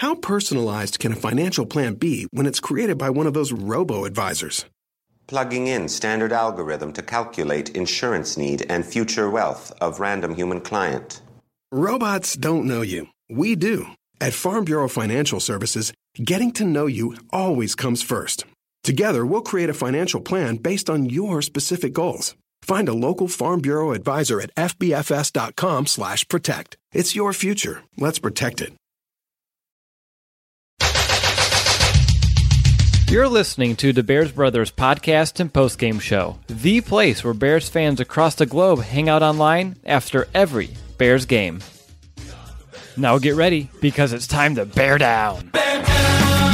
How personalized can a financial plan be when it's created by one of those robo-advisors? Plugging in standard algorithm to calculate insurance need and future wealth of random human client. Robots don't know you. We do. At Farm Bureau Financial Services, getting to know you always comes first. Together, we'll create a financial plan based on your specific goals. Find a local Farm Bureau advisor at fbfs.com/protect. It's your future. Let's protect it. You're listening to the Bears Brothers podcast and postgame show, the place where Bears fans across the globe hang out online after every Bears game. Now get ready, because it's time to bear down. Bear down!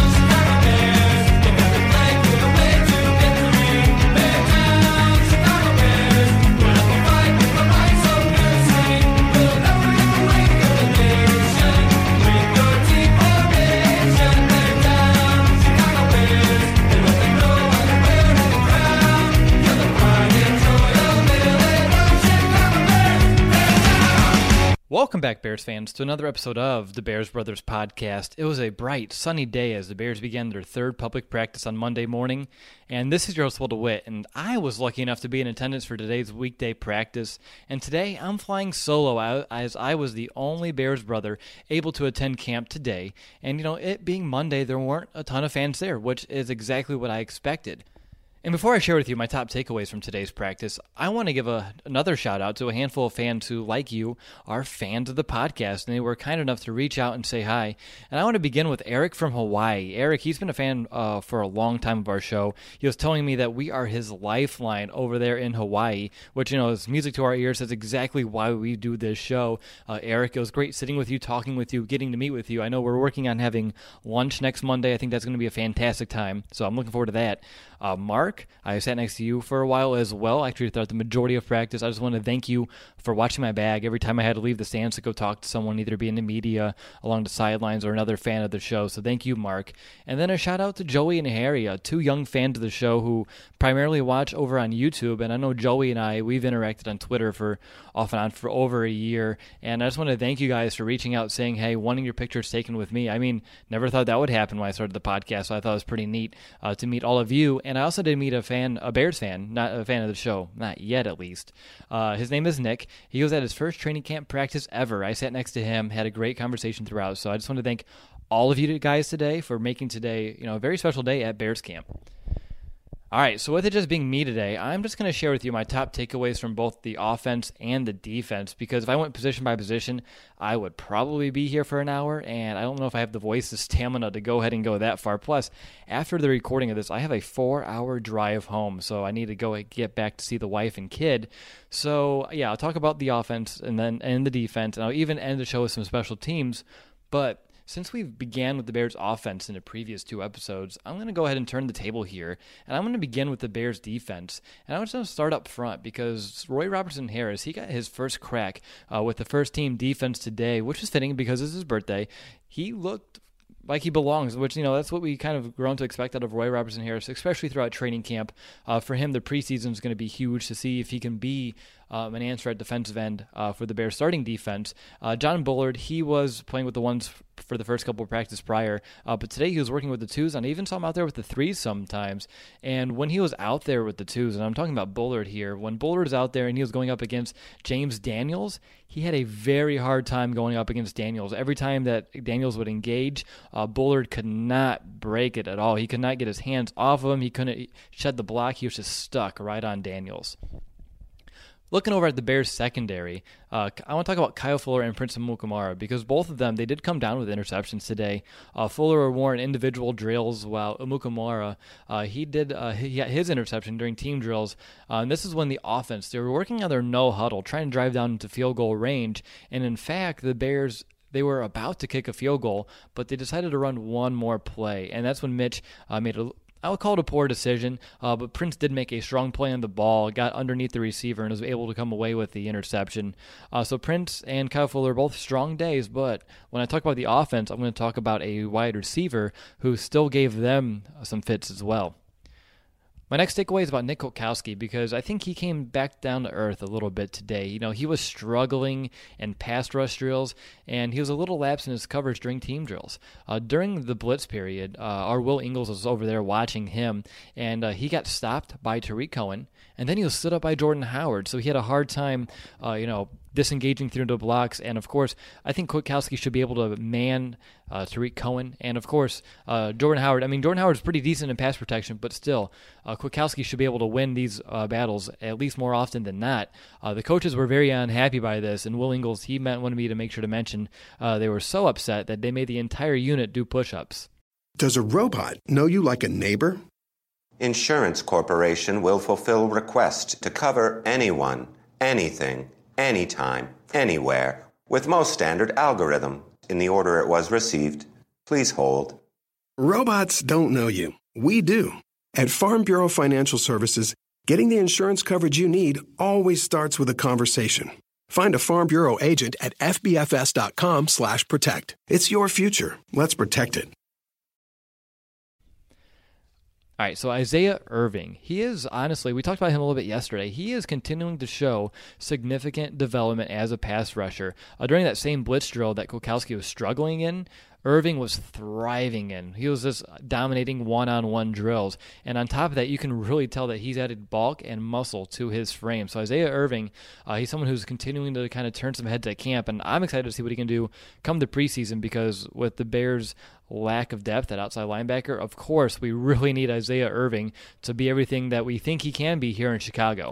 Welcome back, Bears fans, to another episode of the Bears Brothers podcast. It was a bright, sunny day as the Bears began their third public practice on Monday morning, and this is your host, Will DeWitt, and I was lucky enough to be in attendance for today's weekday practice, and today I'm flying solo as I was the only Bears brother able to attend camp today, and it being Monday, there weren't a ton of fans there, which is exactly what I expected. And before I share with you my top takeaways from today's practice, I want to give another shout out to a handful of fans who, like you, are fans of the podcast, and they were kind enough to reach out and say hi. And I want to begin with Eric from Hawaii. Eric, he's been a fan for a long time of our show. He was telling me that we are his lifeline over there in Hawaii, which, is music to our ears. That's exactly why we do this show. Eric, it was great sitting with you, talking with you, getting to meet with you. I know we're working on having lunch next Monday. I think that's going to be a fantastic time, so I'm looking forward to that. Mark, I sat next to you for a while as well, actually throughout the majority of practice. I just want to thank you for watching my bag every time I had to leave the stands to go talk to someone, either be in the media, along the sidelines, or another fan of the show. So thank you, Mark. And then a shout out to Joey and Harry, two young fans of the show who primarily watch over on YouTube. And I know Joey and I, we've interacted on Twitter for off and on for over a year. And I just want to thank you guys for reaching out, saying, hey, wanting your pictures taken with me. I mean, never thought that would happen when I started the podcast, so I thought it was pretty neat to meet all of you. And I also did meet a Bears fan, not a fan of the show, not yet at least. His name is Nick. He was at his first training camp practice ever. I sat next to him, had a great conversation throughout. So I just want to thank all of you guys today for making today, a very special day at Bears camp. All right, so with it just being me today, I'm just going to share with you my top takeaways from both the offense and the defense, because if I went position by position, I would probably be here for an hour, and I don't know if I have the voice, the stamina to go ahead and go that far. Plus, after the recording of this, I have a 4-hour drive home, so I need to go get back to see the wife and kid. So, yeah, I'll talk about the offense and the defense, and I'll even end the show with some special teams, but since we began with the Bears offense in the previous two episodes, I'm going to go ahead and turn the table here, and I'm going to begin with the Bears defense. And I'm just going to start up front because Roy Robertson Harris, he got his first crack with the first team defense today, which is fitting because it's his birthday. He looked like he belongs, which, that's what we kind of grown to expect out of Roy Robertson Harris, especially throughout training camp. For him, the preseason is going to be huge to see if he can be an answer at defensive end for the Bears starting defense. John Bullard, he was playing with the ones for the first couple of practice prior, but today he was working with the twos, and I even saw him out there with the threes sometimes. And when he was out there with the twos, and I'm talking about Bullard here, when Bullard was out there and he was going up against James Daniels, he had a very hard time going up against Daniels. Every time that Daniels would engage, Bullard could not break it at all. He could not get his hands off of him. He couldn't shed the block. He was just stuck right on Daniels. Looking over at the Bears secondary, I want to talk about Kyle Fuller and Prince Amukamara because both of them, they did come down with interceptions today. Fuller wore in individual drills while Amukamara, he got his interception during team drills. And this is when the offense, they were working on their no huddle, trying to drive down into field goal range. And in fact, the Bears, they were about to kick a field goal, but they decided to run one more play. And that's when Mitch made I would call it a poor decision, but Prince did make a strong play on the ball, got underneath the receiver, and was able to come away with the interception. So Prince and Kyle Fuller are both strong days, but when I talk about the offense, I'm going to talk about a wide receiver who still gave them some fits as well. My next takeaway is about Nick Kwiatkowski because I think he came back down to earth a little bit today. He was struggling in pass rush drills, and he was a little lax in his coverage during team drills. During the blitz period, our Will Ingles was over there watching him, and he got stopped by Tarik Cohen, and then he was stood up by Jordan Howard, so he had a hard time, disengaging through the blocks. And of course, I think Kwiatkowski should be able to man Tarik Cohen, and of course Jordan Howard. Jordan Howard's pretty decent in pass protection, but still, Kwiatkowski should be able to win these battles at least more often than not. The coaches were very unhappy by this, and Will Ingles, he wanted me to make sure to mention they were so upset that they made the entire unit do push-ups. Does a robot know you like a neighbor? Insurance Corporation will fulfill request to cover anyone, anything, anytime, anywhere, with most standard algorithm in the order it was received. Please hold. Robots don't know you. We do. At Farm Bureau Financial Services, getting the insurance coverage you need always starts with a conversation. Find a Farm Bureau agent at fbfs.com/protect. It's your future. Let's protect it. All right, so Isaiah Irving, he is honestly, we talked about him a little bit yesterday, he is continuing to show significant development as a pass rusher. During that same blitz drill that Kwiatkowski was struggling in, Irving was thriving in. He was just dominating one-on-one drills. And on top of that, you can really tell that he's added bulk and muscle to his frame. So Isaiah Irving, he's someone who's continuing to kind of turn some heads at camp. And I'm excited to see what he can do come the preseason, because with the Bears' lack of depth at outside linebacker, of course, we really need Isaiah Irving to be everything that we think he can be here in Chicago.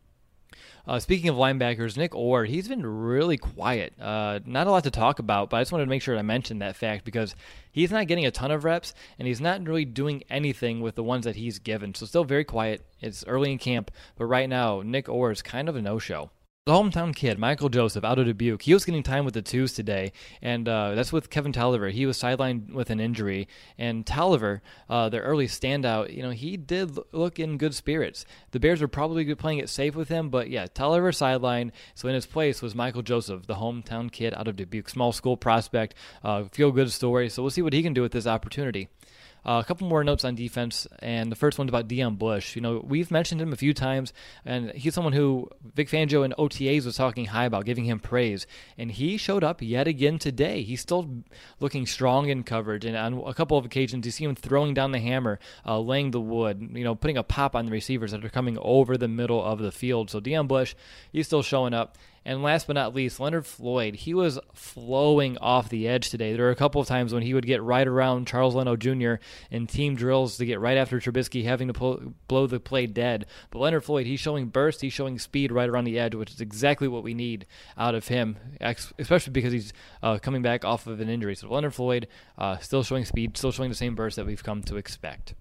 Speaking of linebackers, Nick Orr, he's been really quiet. Not a lot to talk about, but I just wanted to make sure I mentioned that fact because he's not getting a ton of reps, and he's not really doing anything with the ones that he's given. So still very quiet. It's early in camp, but right now, Nick Orr is kind of a no-show. The hometown kid, Michael Joseph, out of Dubuque, he was getting time with the twos today, and that's with Kevin Tolliver. He was sidelined with an injury, and Tolliver, their early standout, he did look in good spirits. The Bears were probably playing it safe with him, but yeah, Tolliver sidelined, so in his place was Michael Joseph, the hometown kid out of Dubuque, small school prospect, feel-good story, so we'll see what he can do with this opportunity. A couple more notes on defense, and the first one's about Deon Bush. We've mentioned him a few times, and he's someone who Vic Fangio and OTAs was talking high about, giving him praise, and he showed up yet again today. He's still looking strong in coverage, and on a couple of occasions you see him throwing down the hammer, laying the wood, putting a pop on the receivers that are coming over the middle of the field. So Deon Bush, he's still showing up. And last but not least, Leonard Floyd. He was flowing off the edge today. There were a couple of times when he would get right around Charles Leno Jr. in team drills to get right after Trubisky, having to blow the play dead. But Leonard Floyd, he's showing burst, he's showing speed right around the edge, which is exactly what we need out of him, especially because he's coming back off of an injury. So Leonard Floyd still showing speed, still showing the same burst that we've come to expect.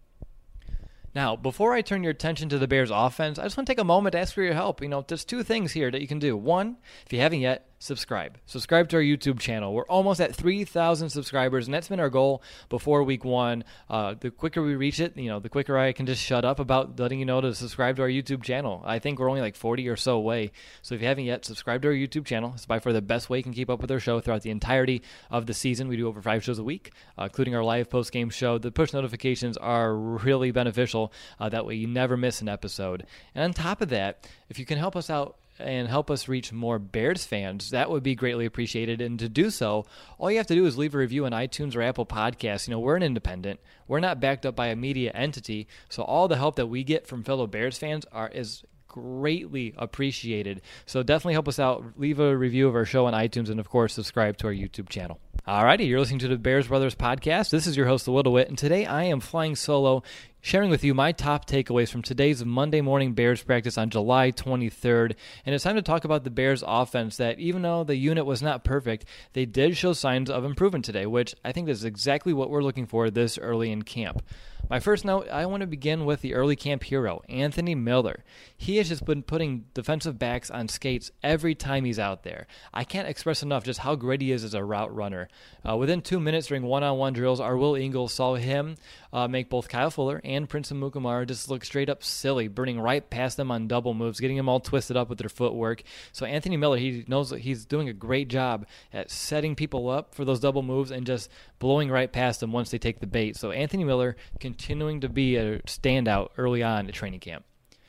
Now, before I turn your attention to the Bears offense, I just want to take a moment to ask for your help. There's two things here that you can do. One, if you haven't yet, subscribe. Subscribe to our YouTube channel. We're almost at 3,000 subscribers, and that's been our goal before week one. The quicker we reach it, the quicker I can just shut up about letting you know to subscribe to our YouTube channel. I think we're only like 40 or so away. So if you haven't yet, subscribe to our YouTube channel. It's by far the best way you can keep up with our show throughout the entirety of the season. We do over 5 shows a week, including our live post-game show. The push notifications are really beneficial. That way you never miss an episode. And on top of that, if you can help us out and help us reach more Bears fans, that would be greatly appreciated. And to do so, all you have to do is leave a review on iTunes or Apple Podcasts. We're an independent. We're not backed up by a media entity. So all the help that we get from fellow Bears fans is greatly appreciated. So definitely help us out. Leave a review of our show on iTunes, and of course, subscribe to our YouTube channel. Alrighty, you're listening to the Bears Brothers podcast. This is your host, The Little Wit, and today I am flying solo, sharing with you my top takeaways from today's Monday morning Bears practice on July 23rd. And it's time to talk about the Bears offense that, even though the unit was not perfect, they did show signs of improvement today, which I think is exactly what we're looking for this early in camp. My first note, I want to begin with the early camp hero, Anthony Miller. He has just been putting defensive backs on skates every time he's out there. I can't express enough just how great he is as a route runner. Within 2 minutes during one-on-one drills, our Will Ingles saw him make both Kyle Fuller and Prince Amukamara just look straight up silly, burning right past them on double moves, getting them all twisted up with their footwork. So Anthony Miller, he knows that he's doing a great job at setting people up for those double moves and just blowing right past them once they take the bait. So Anthony Miller continuing to be a standout early on at training camp.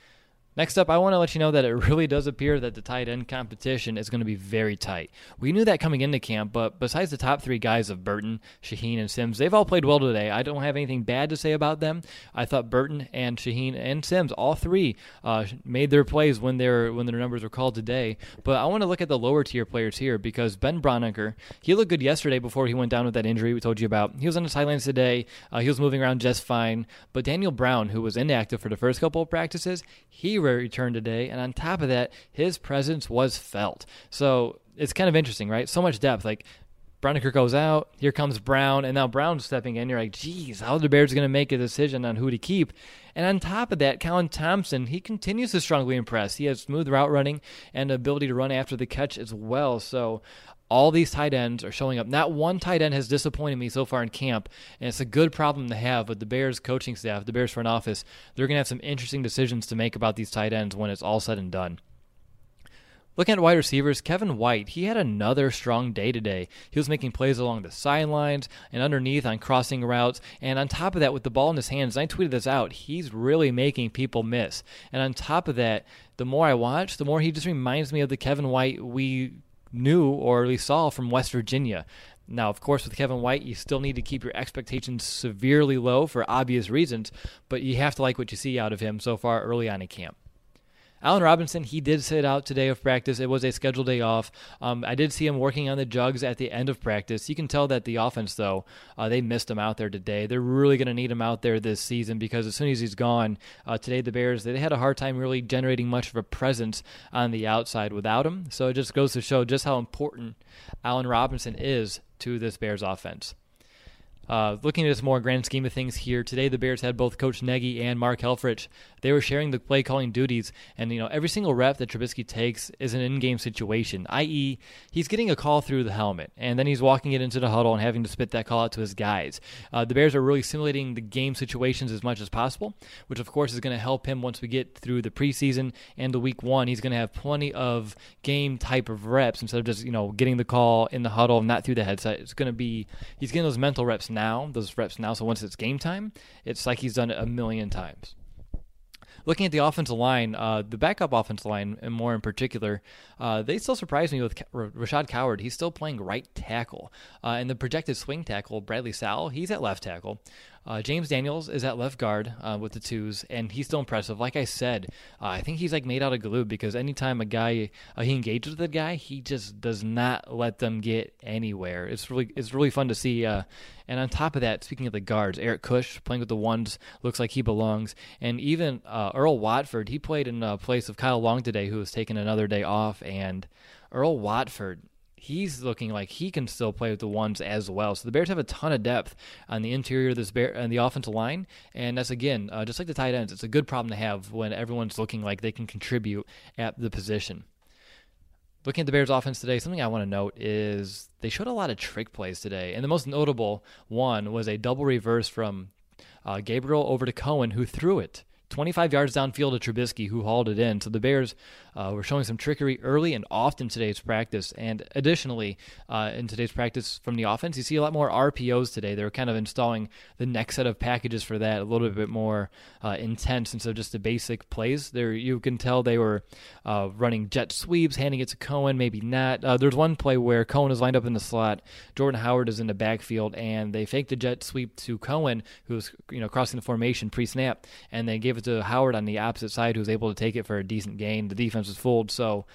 Next up, I want to let you know that it really does appear that the tight end competition is going to be very tight. We knew that coming into camp, but besides the top three guys of Burton, Shaheen, and Sims, they've all played well today. I don't have anything bad to say about them. I thought Burton and Shaheen and Sims, all three, made their plays when their numbers were called today. But I want to look at the lower tier players here because Ben Braunecker, he looked good yesterday before he went down with that injury we told you about. He was on the sidelines today. He was moving around just fine. But Daniel Brown, who was inactive for the first couple of practices, he returned today, and on top of that, his presence was felt. So it's kind of interesting, right? So much depth. Like, Braunecker goes out, here comes Brown, and now Brown's stepping in. You're like, geez, how are the Bears going to make a decision on who to keep? And on top of that, Colin Thompson, he continues to strongly impress. He has smooth route running and the ability to run after the catch as well. So all these tight ends are showing up. Not one tight end has disappointed me so far in camp, and it's a good problem to have with the Bears coaching staff, the Bears front office. They're going to have some interesting decisions to make about these tight ends when it's all said and done. Looking at wide receivers, Kevin White, he had another strong day today. He was making plays along the sidelines and underneath on crossing routes. And on top of that, with the ball in his hands, I tweeted this out, he's really making people miss. And on top of that, the more I watch, the more he just reminds me of the Kevin White we knew or at least saw from West Virginia. Now, of course, with Kevin White, you still need to keep your expectations severely low for obvious reasons, but you have to like what you see out of him so far early on in camp. Allen Robinson, he did sit out today of practice. It was a scheduled day off. I did see him working on the jugs at the end of practice. You can tell that the offense, though, they missed him out there today. They're really going to need him out there this season because as soon as he's gone, today the Bears, they had a hard time really generating much of a presence on the outside without him. So it just goes to show just how important Allen Robinson is to this Bears offense. Looking at this more grand scheme of things here, today the Bears had both Coach Nagy and Mark Helfrich. They were sharing the play calling duties, and every single rep that Trubisky takes is an in-game situation, i.e., he's getting a call through the helmet, and then he's walking it into the huddle and having to spit that call out to his guys. The Bears are really simulating the game situations as much as possible, which of course is going to help him once we get through the preseason and the week one. He's going to have plenty of game type of reps instead of just getting the call in the huddle, not through the headset. It's going to be he's getting those mental reps now, so once it's game time, it's like he's done it a million times. Looking at the offensive line, the backup offensive line, and more in particular, they still surprise me with Rashad Coward. He's still playing right tackle. And the projected swing tackle, Bradley Sowell, he's at left tackle. James Daniels is at left guard with the twos, and he's still impressive. Like I said, I think he's like made out of glue because anytime a guy he engages with a guy, he just does not let them get anywhere. It's really fun to see. And on top of that, speaking of the guards, Eric Kush playing with the ones looks like he belongs. And even Earl Watford, he played in place of Kyle Long today, who was taking another day off. And Earl Watford, he's looking like he can still play with the ones as well. So the Bears have a ton of depth on the interior of this and the offensive line, and that's again just like the tight ends. It's a good problem to have when everyone's looking like they can contribute at the position. Looking at the Bears offense today, something I want to note is they showed a lot of trick plays today, and the most notable one was a double reverse from Gabriel over to Cohen, who threw it 25 yards downfield to Trubisky, who hauled it in. So the Bears were showing some trickery early and often in today's practice. And additionally, in today's practice from the offense, you see a lot more RPOs today. They're kind of installing the next set of packages for that, a little bit more intense instead of just the basic plays. There, you can tell they were running jet sweeps, handing it to Cohen, maybe not. There's one play where Cohen is lined up in the slot, Jordan Howard is in the backfield, and they faked the jet sweep to Cohen, who was crossing the formation pre-snap, and they gave it to Howard on the opposite side, who was able to take it for a decent gain. The defense was fooled. So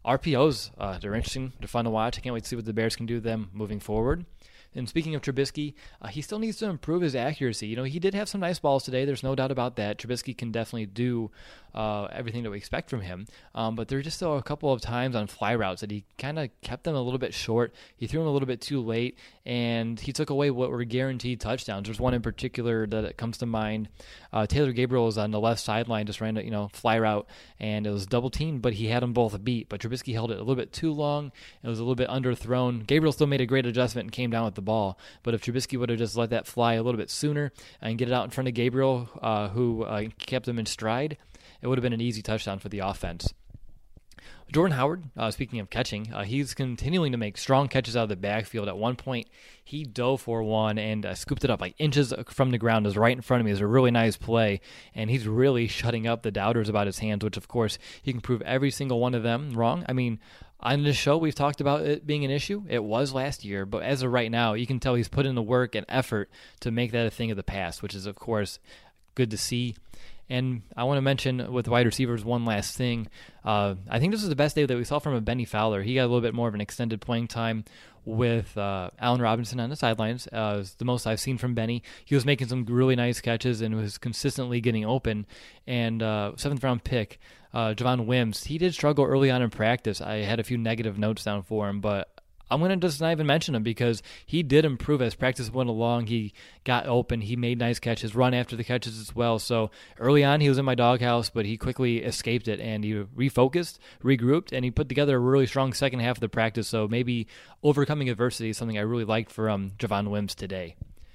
RPOs, they're interesting. They're fun to watch. I can't wait to see what the Bears can do with them moving forward. And speaking of Trubisky, he still needs to improve his accuracy. He did have some nice balls today. There's no doubt about that. Trubisky can definitely do everything that we expect from him. But there were just still a couple of times on fly routes that he kind of kept them a little bit short. He threw them a little bit too late, and he took away what were guaranteed touchdowns. There's one in particular that comes to mind. Taylor Gabriel was on the left sideline, just ran a fly route, and it was double teamed, but he had them both beat. But Trubisky held it a little bit too long. It was a little bit underthrown. Gabriel still made a great adjustment and came down with the the ball. But if Trubisky would have just let that fly a little bit sooner and get it out in front of Gabriel, who kept him in stride, it would have been an easy touchdown for the offense. Jordan Howard, speaking of catching, he's continuing to make strong catches out of the backfield. At one point, he dove for one and scooped it up like inches from the ground. It was right in front of me. It was a really nice play, and he's really shutting up the doubters about his hands, which, of course, he can prove every single one of them wrong. I mean, on this show, we've talked about it being an issue. It was last year, but as of right now, you can tell he's put in the work and effort to make that a thing of the past, which is, of course, good to see. And I want to mention with wide receivers one last thing. I think this is the best day that we saw from a Benny Fowler. He got a little bit more of an extended playing time with Allen Robinson on the sidelines. It was the most I've seen from Benny. He was making some really nice catches and was consistently getting open. And 7th round pick, Javon Wims, he did struggle early on in practice. I had a few negative notes down for him, but I'm going to just not even mention him because he did improve as practice went along. He got open. He made nice catches, run after the catches as well. So early on, he was in my doghouse, but he quickly escaped it, and he refocused, regrouped, and he put together a really strong second half of the practice. So maybe overcoming adversity is something I really liked for Javon Wims today.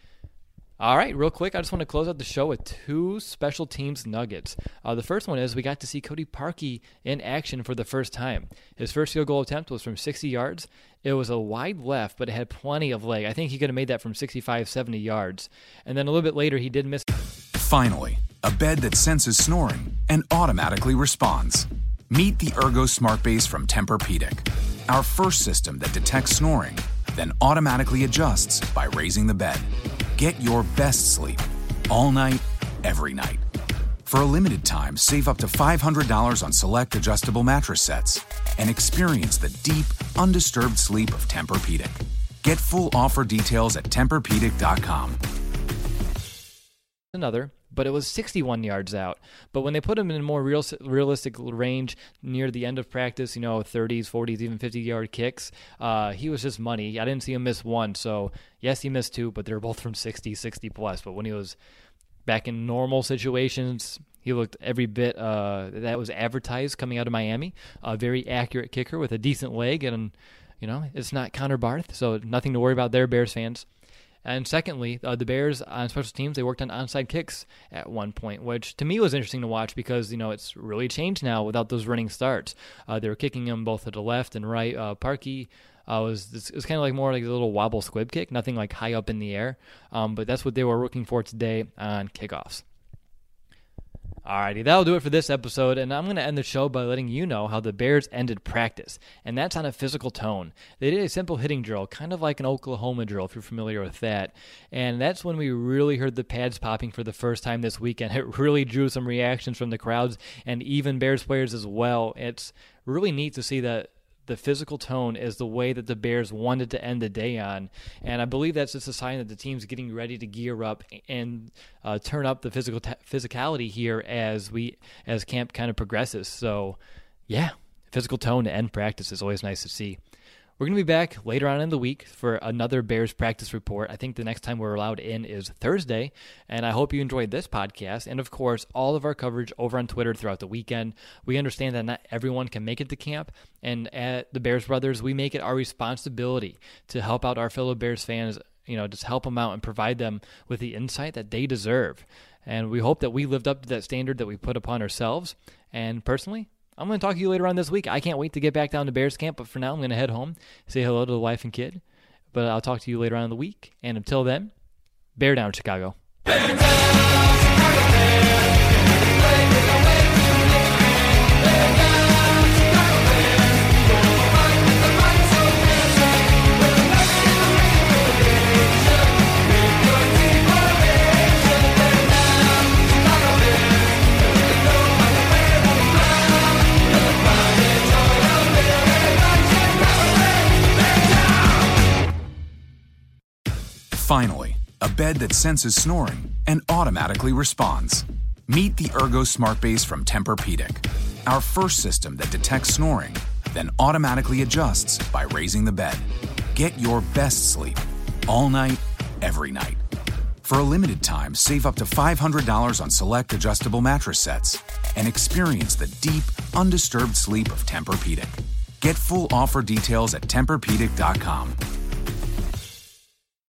All right, real quick, I just want to close out the show with two special teams nuggets. The first one is we got to see Cody Parkey in action for the first time. His first field goal attempt was from 60 yards. It was a wide left, but it had plenty of leg. I think he could have made that from 65, 70 yards. And then a little bit later, he did miss. Finally, a bed that senses snoring and automatically responds. Meet the Ergo Smart Base from Tempur-Pedic, our first system that detects snoring, then automatically adjusts by raising the bed. Get your best sleep all night, every night. For a limited time, save up to $500 on select adjustable mattress sets and experience the deep, undisturbed sleep of Tempur-Pedic. Get full offer details at TempurPedic.com. Another, but it was 61 yards out. But when they put him in a more realistic range near the end of practice, 30s, 40s, even 50-yard kicks, he was just money. I didn't see him miss one. So, yes, he missed two, but they were both from 60, 60+. But when he was back in normal situations, he looked every bit that was advertised coming out of Miami. A very accurate kicker with a decent leg, and, it's not Connor Barth, so nothing to worry about there, Bears fans. And secondly, the Bears on special teams, they worked on onside kicks at one point, which to me was interesting to watch because, it's really changed now without those running starts. They were kicking them both to the left and right. Parkey was kind of like more like a little wobble squib kick, nothing like high up in the air. But that's what they were working for today on kickoffs. Alrighty, that'll do it for this episode, and I'm going to end the show by letting you know how the Bears ended practice, and that's on a physical tone. They did a simple hitting drill, kind of like an Oklahoma drill, if you're familiar with that, and that's when we really heard the pads popping for the first time this weekend. It really drew some reactions from the crowds and even Bears players as well. It's really neat to see that the physical tone is the way that the Bears wanted to end the day on. And I believe that's just a sign that the team's getting ready to gear up and turn up the physicality here as camp kind of progresses. So, yeah, physical tone to end practice is always nice to see. We're going to be back later on in the week for another Bears practice report. I think the next time we're allowed in is Thursday, and I hope you enjoyed this podcast and, of course, all of our coverage over on Twitter throughout the weekend. We understand that not everyone can make it to camp, and at the Bears Brothers, we make it our responsibility to help out our fellow Bears fans, just help them out and provide them with the insight that they deserve. And we hope that we lived up to that standard that we put upon ourselves. And personally, I'm going to talk to you later on this week. I can't wait to get back down to Bears camp, but for now I'm going to head home, say hello to the wife and kid. But I'll talk to you later on in the week. And until then, bear down, Chicago. Bear down, Chicago Bears. Finally, a bed that senses snoring and automatically responds. Meet the Ergo Smart Base from Tempur-Pedic, our first system that detects snoring, then automatically adjusts by raising the bed. Get your best sleep all night, every night. For a limited time, save up to $500 on select adjustable mattress sets and experience the deep, undisturbed sleep of Tempur-Pedic. Get full offer details at TempurPedic.com.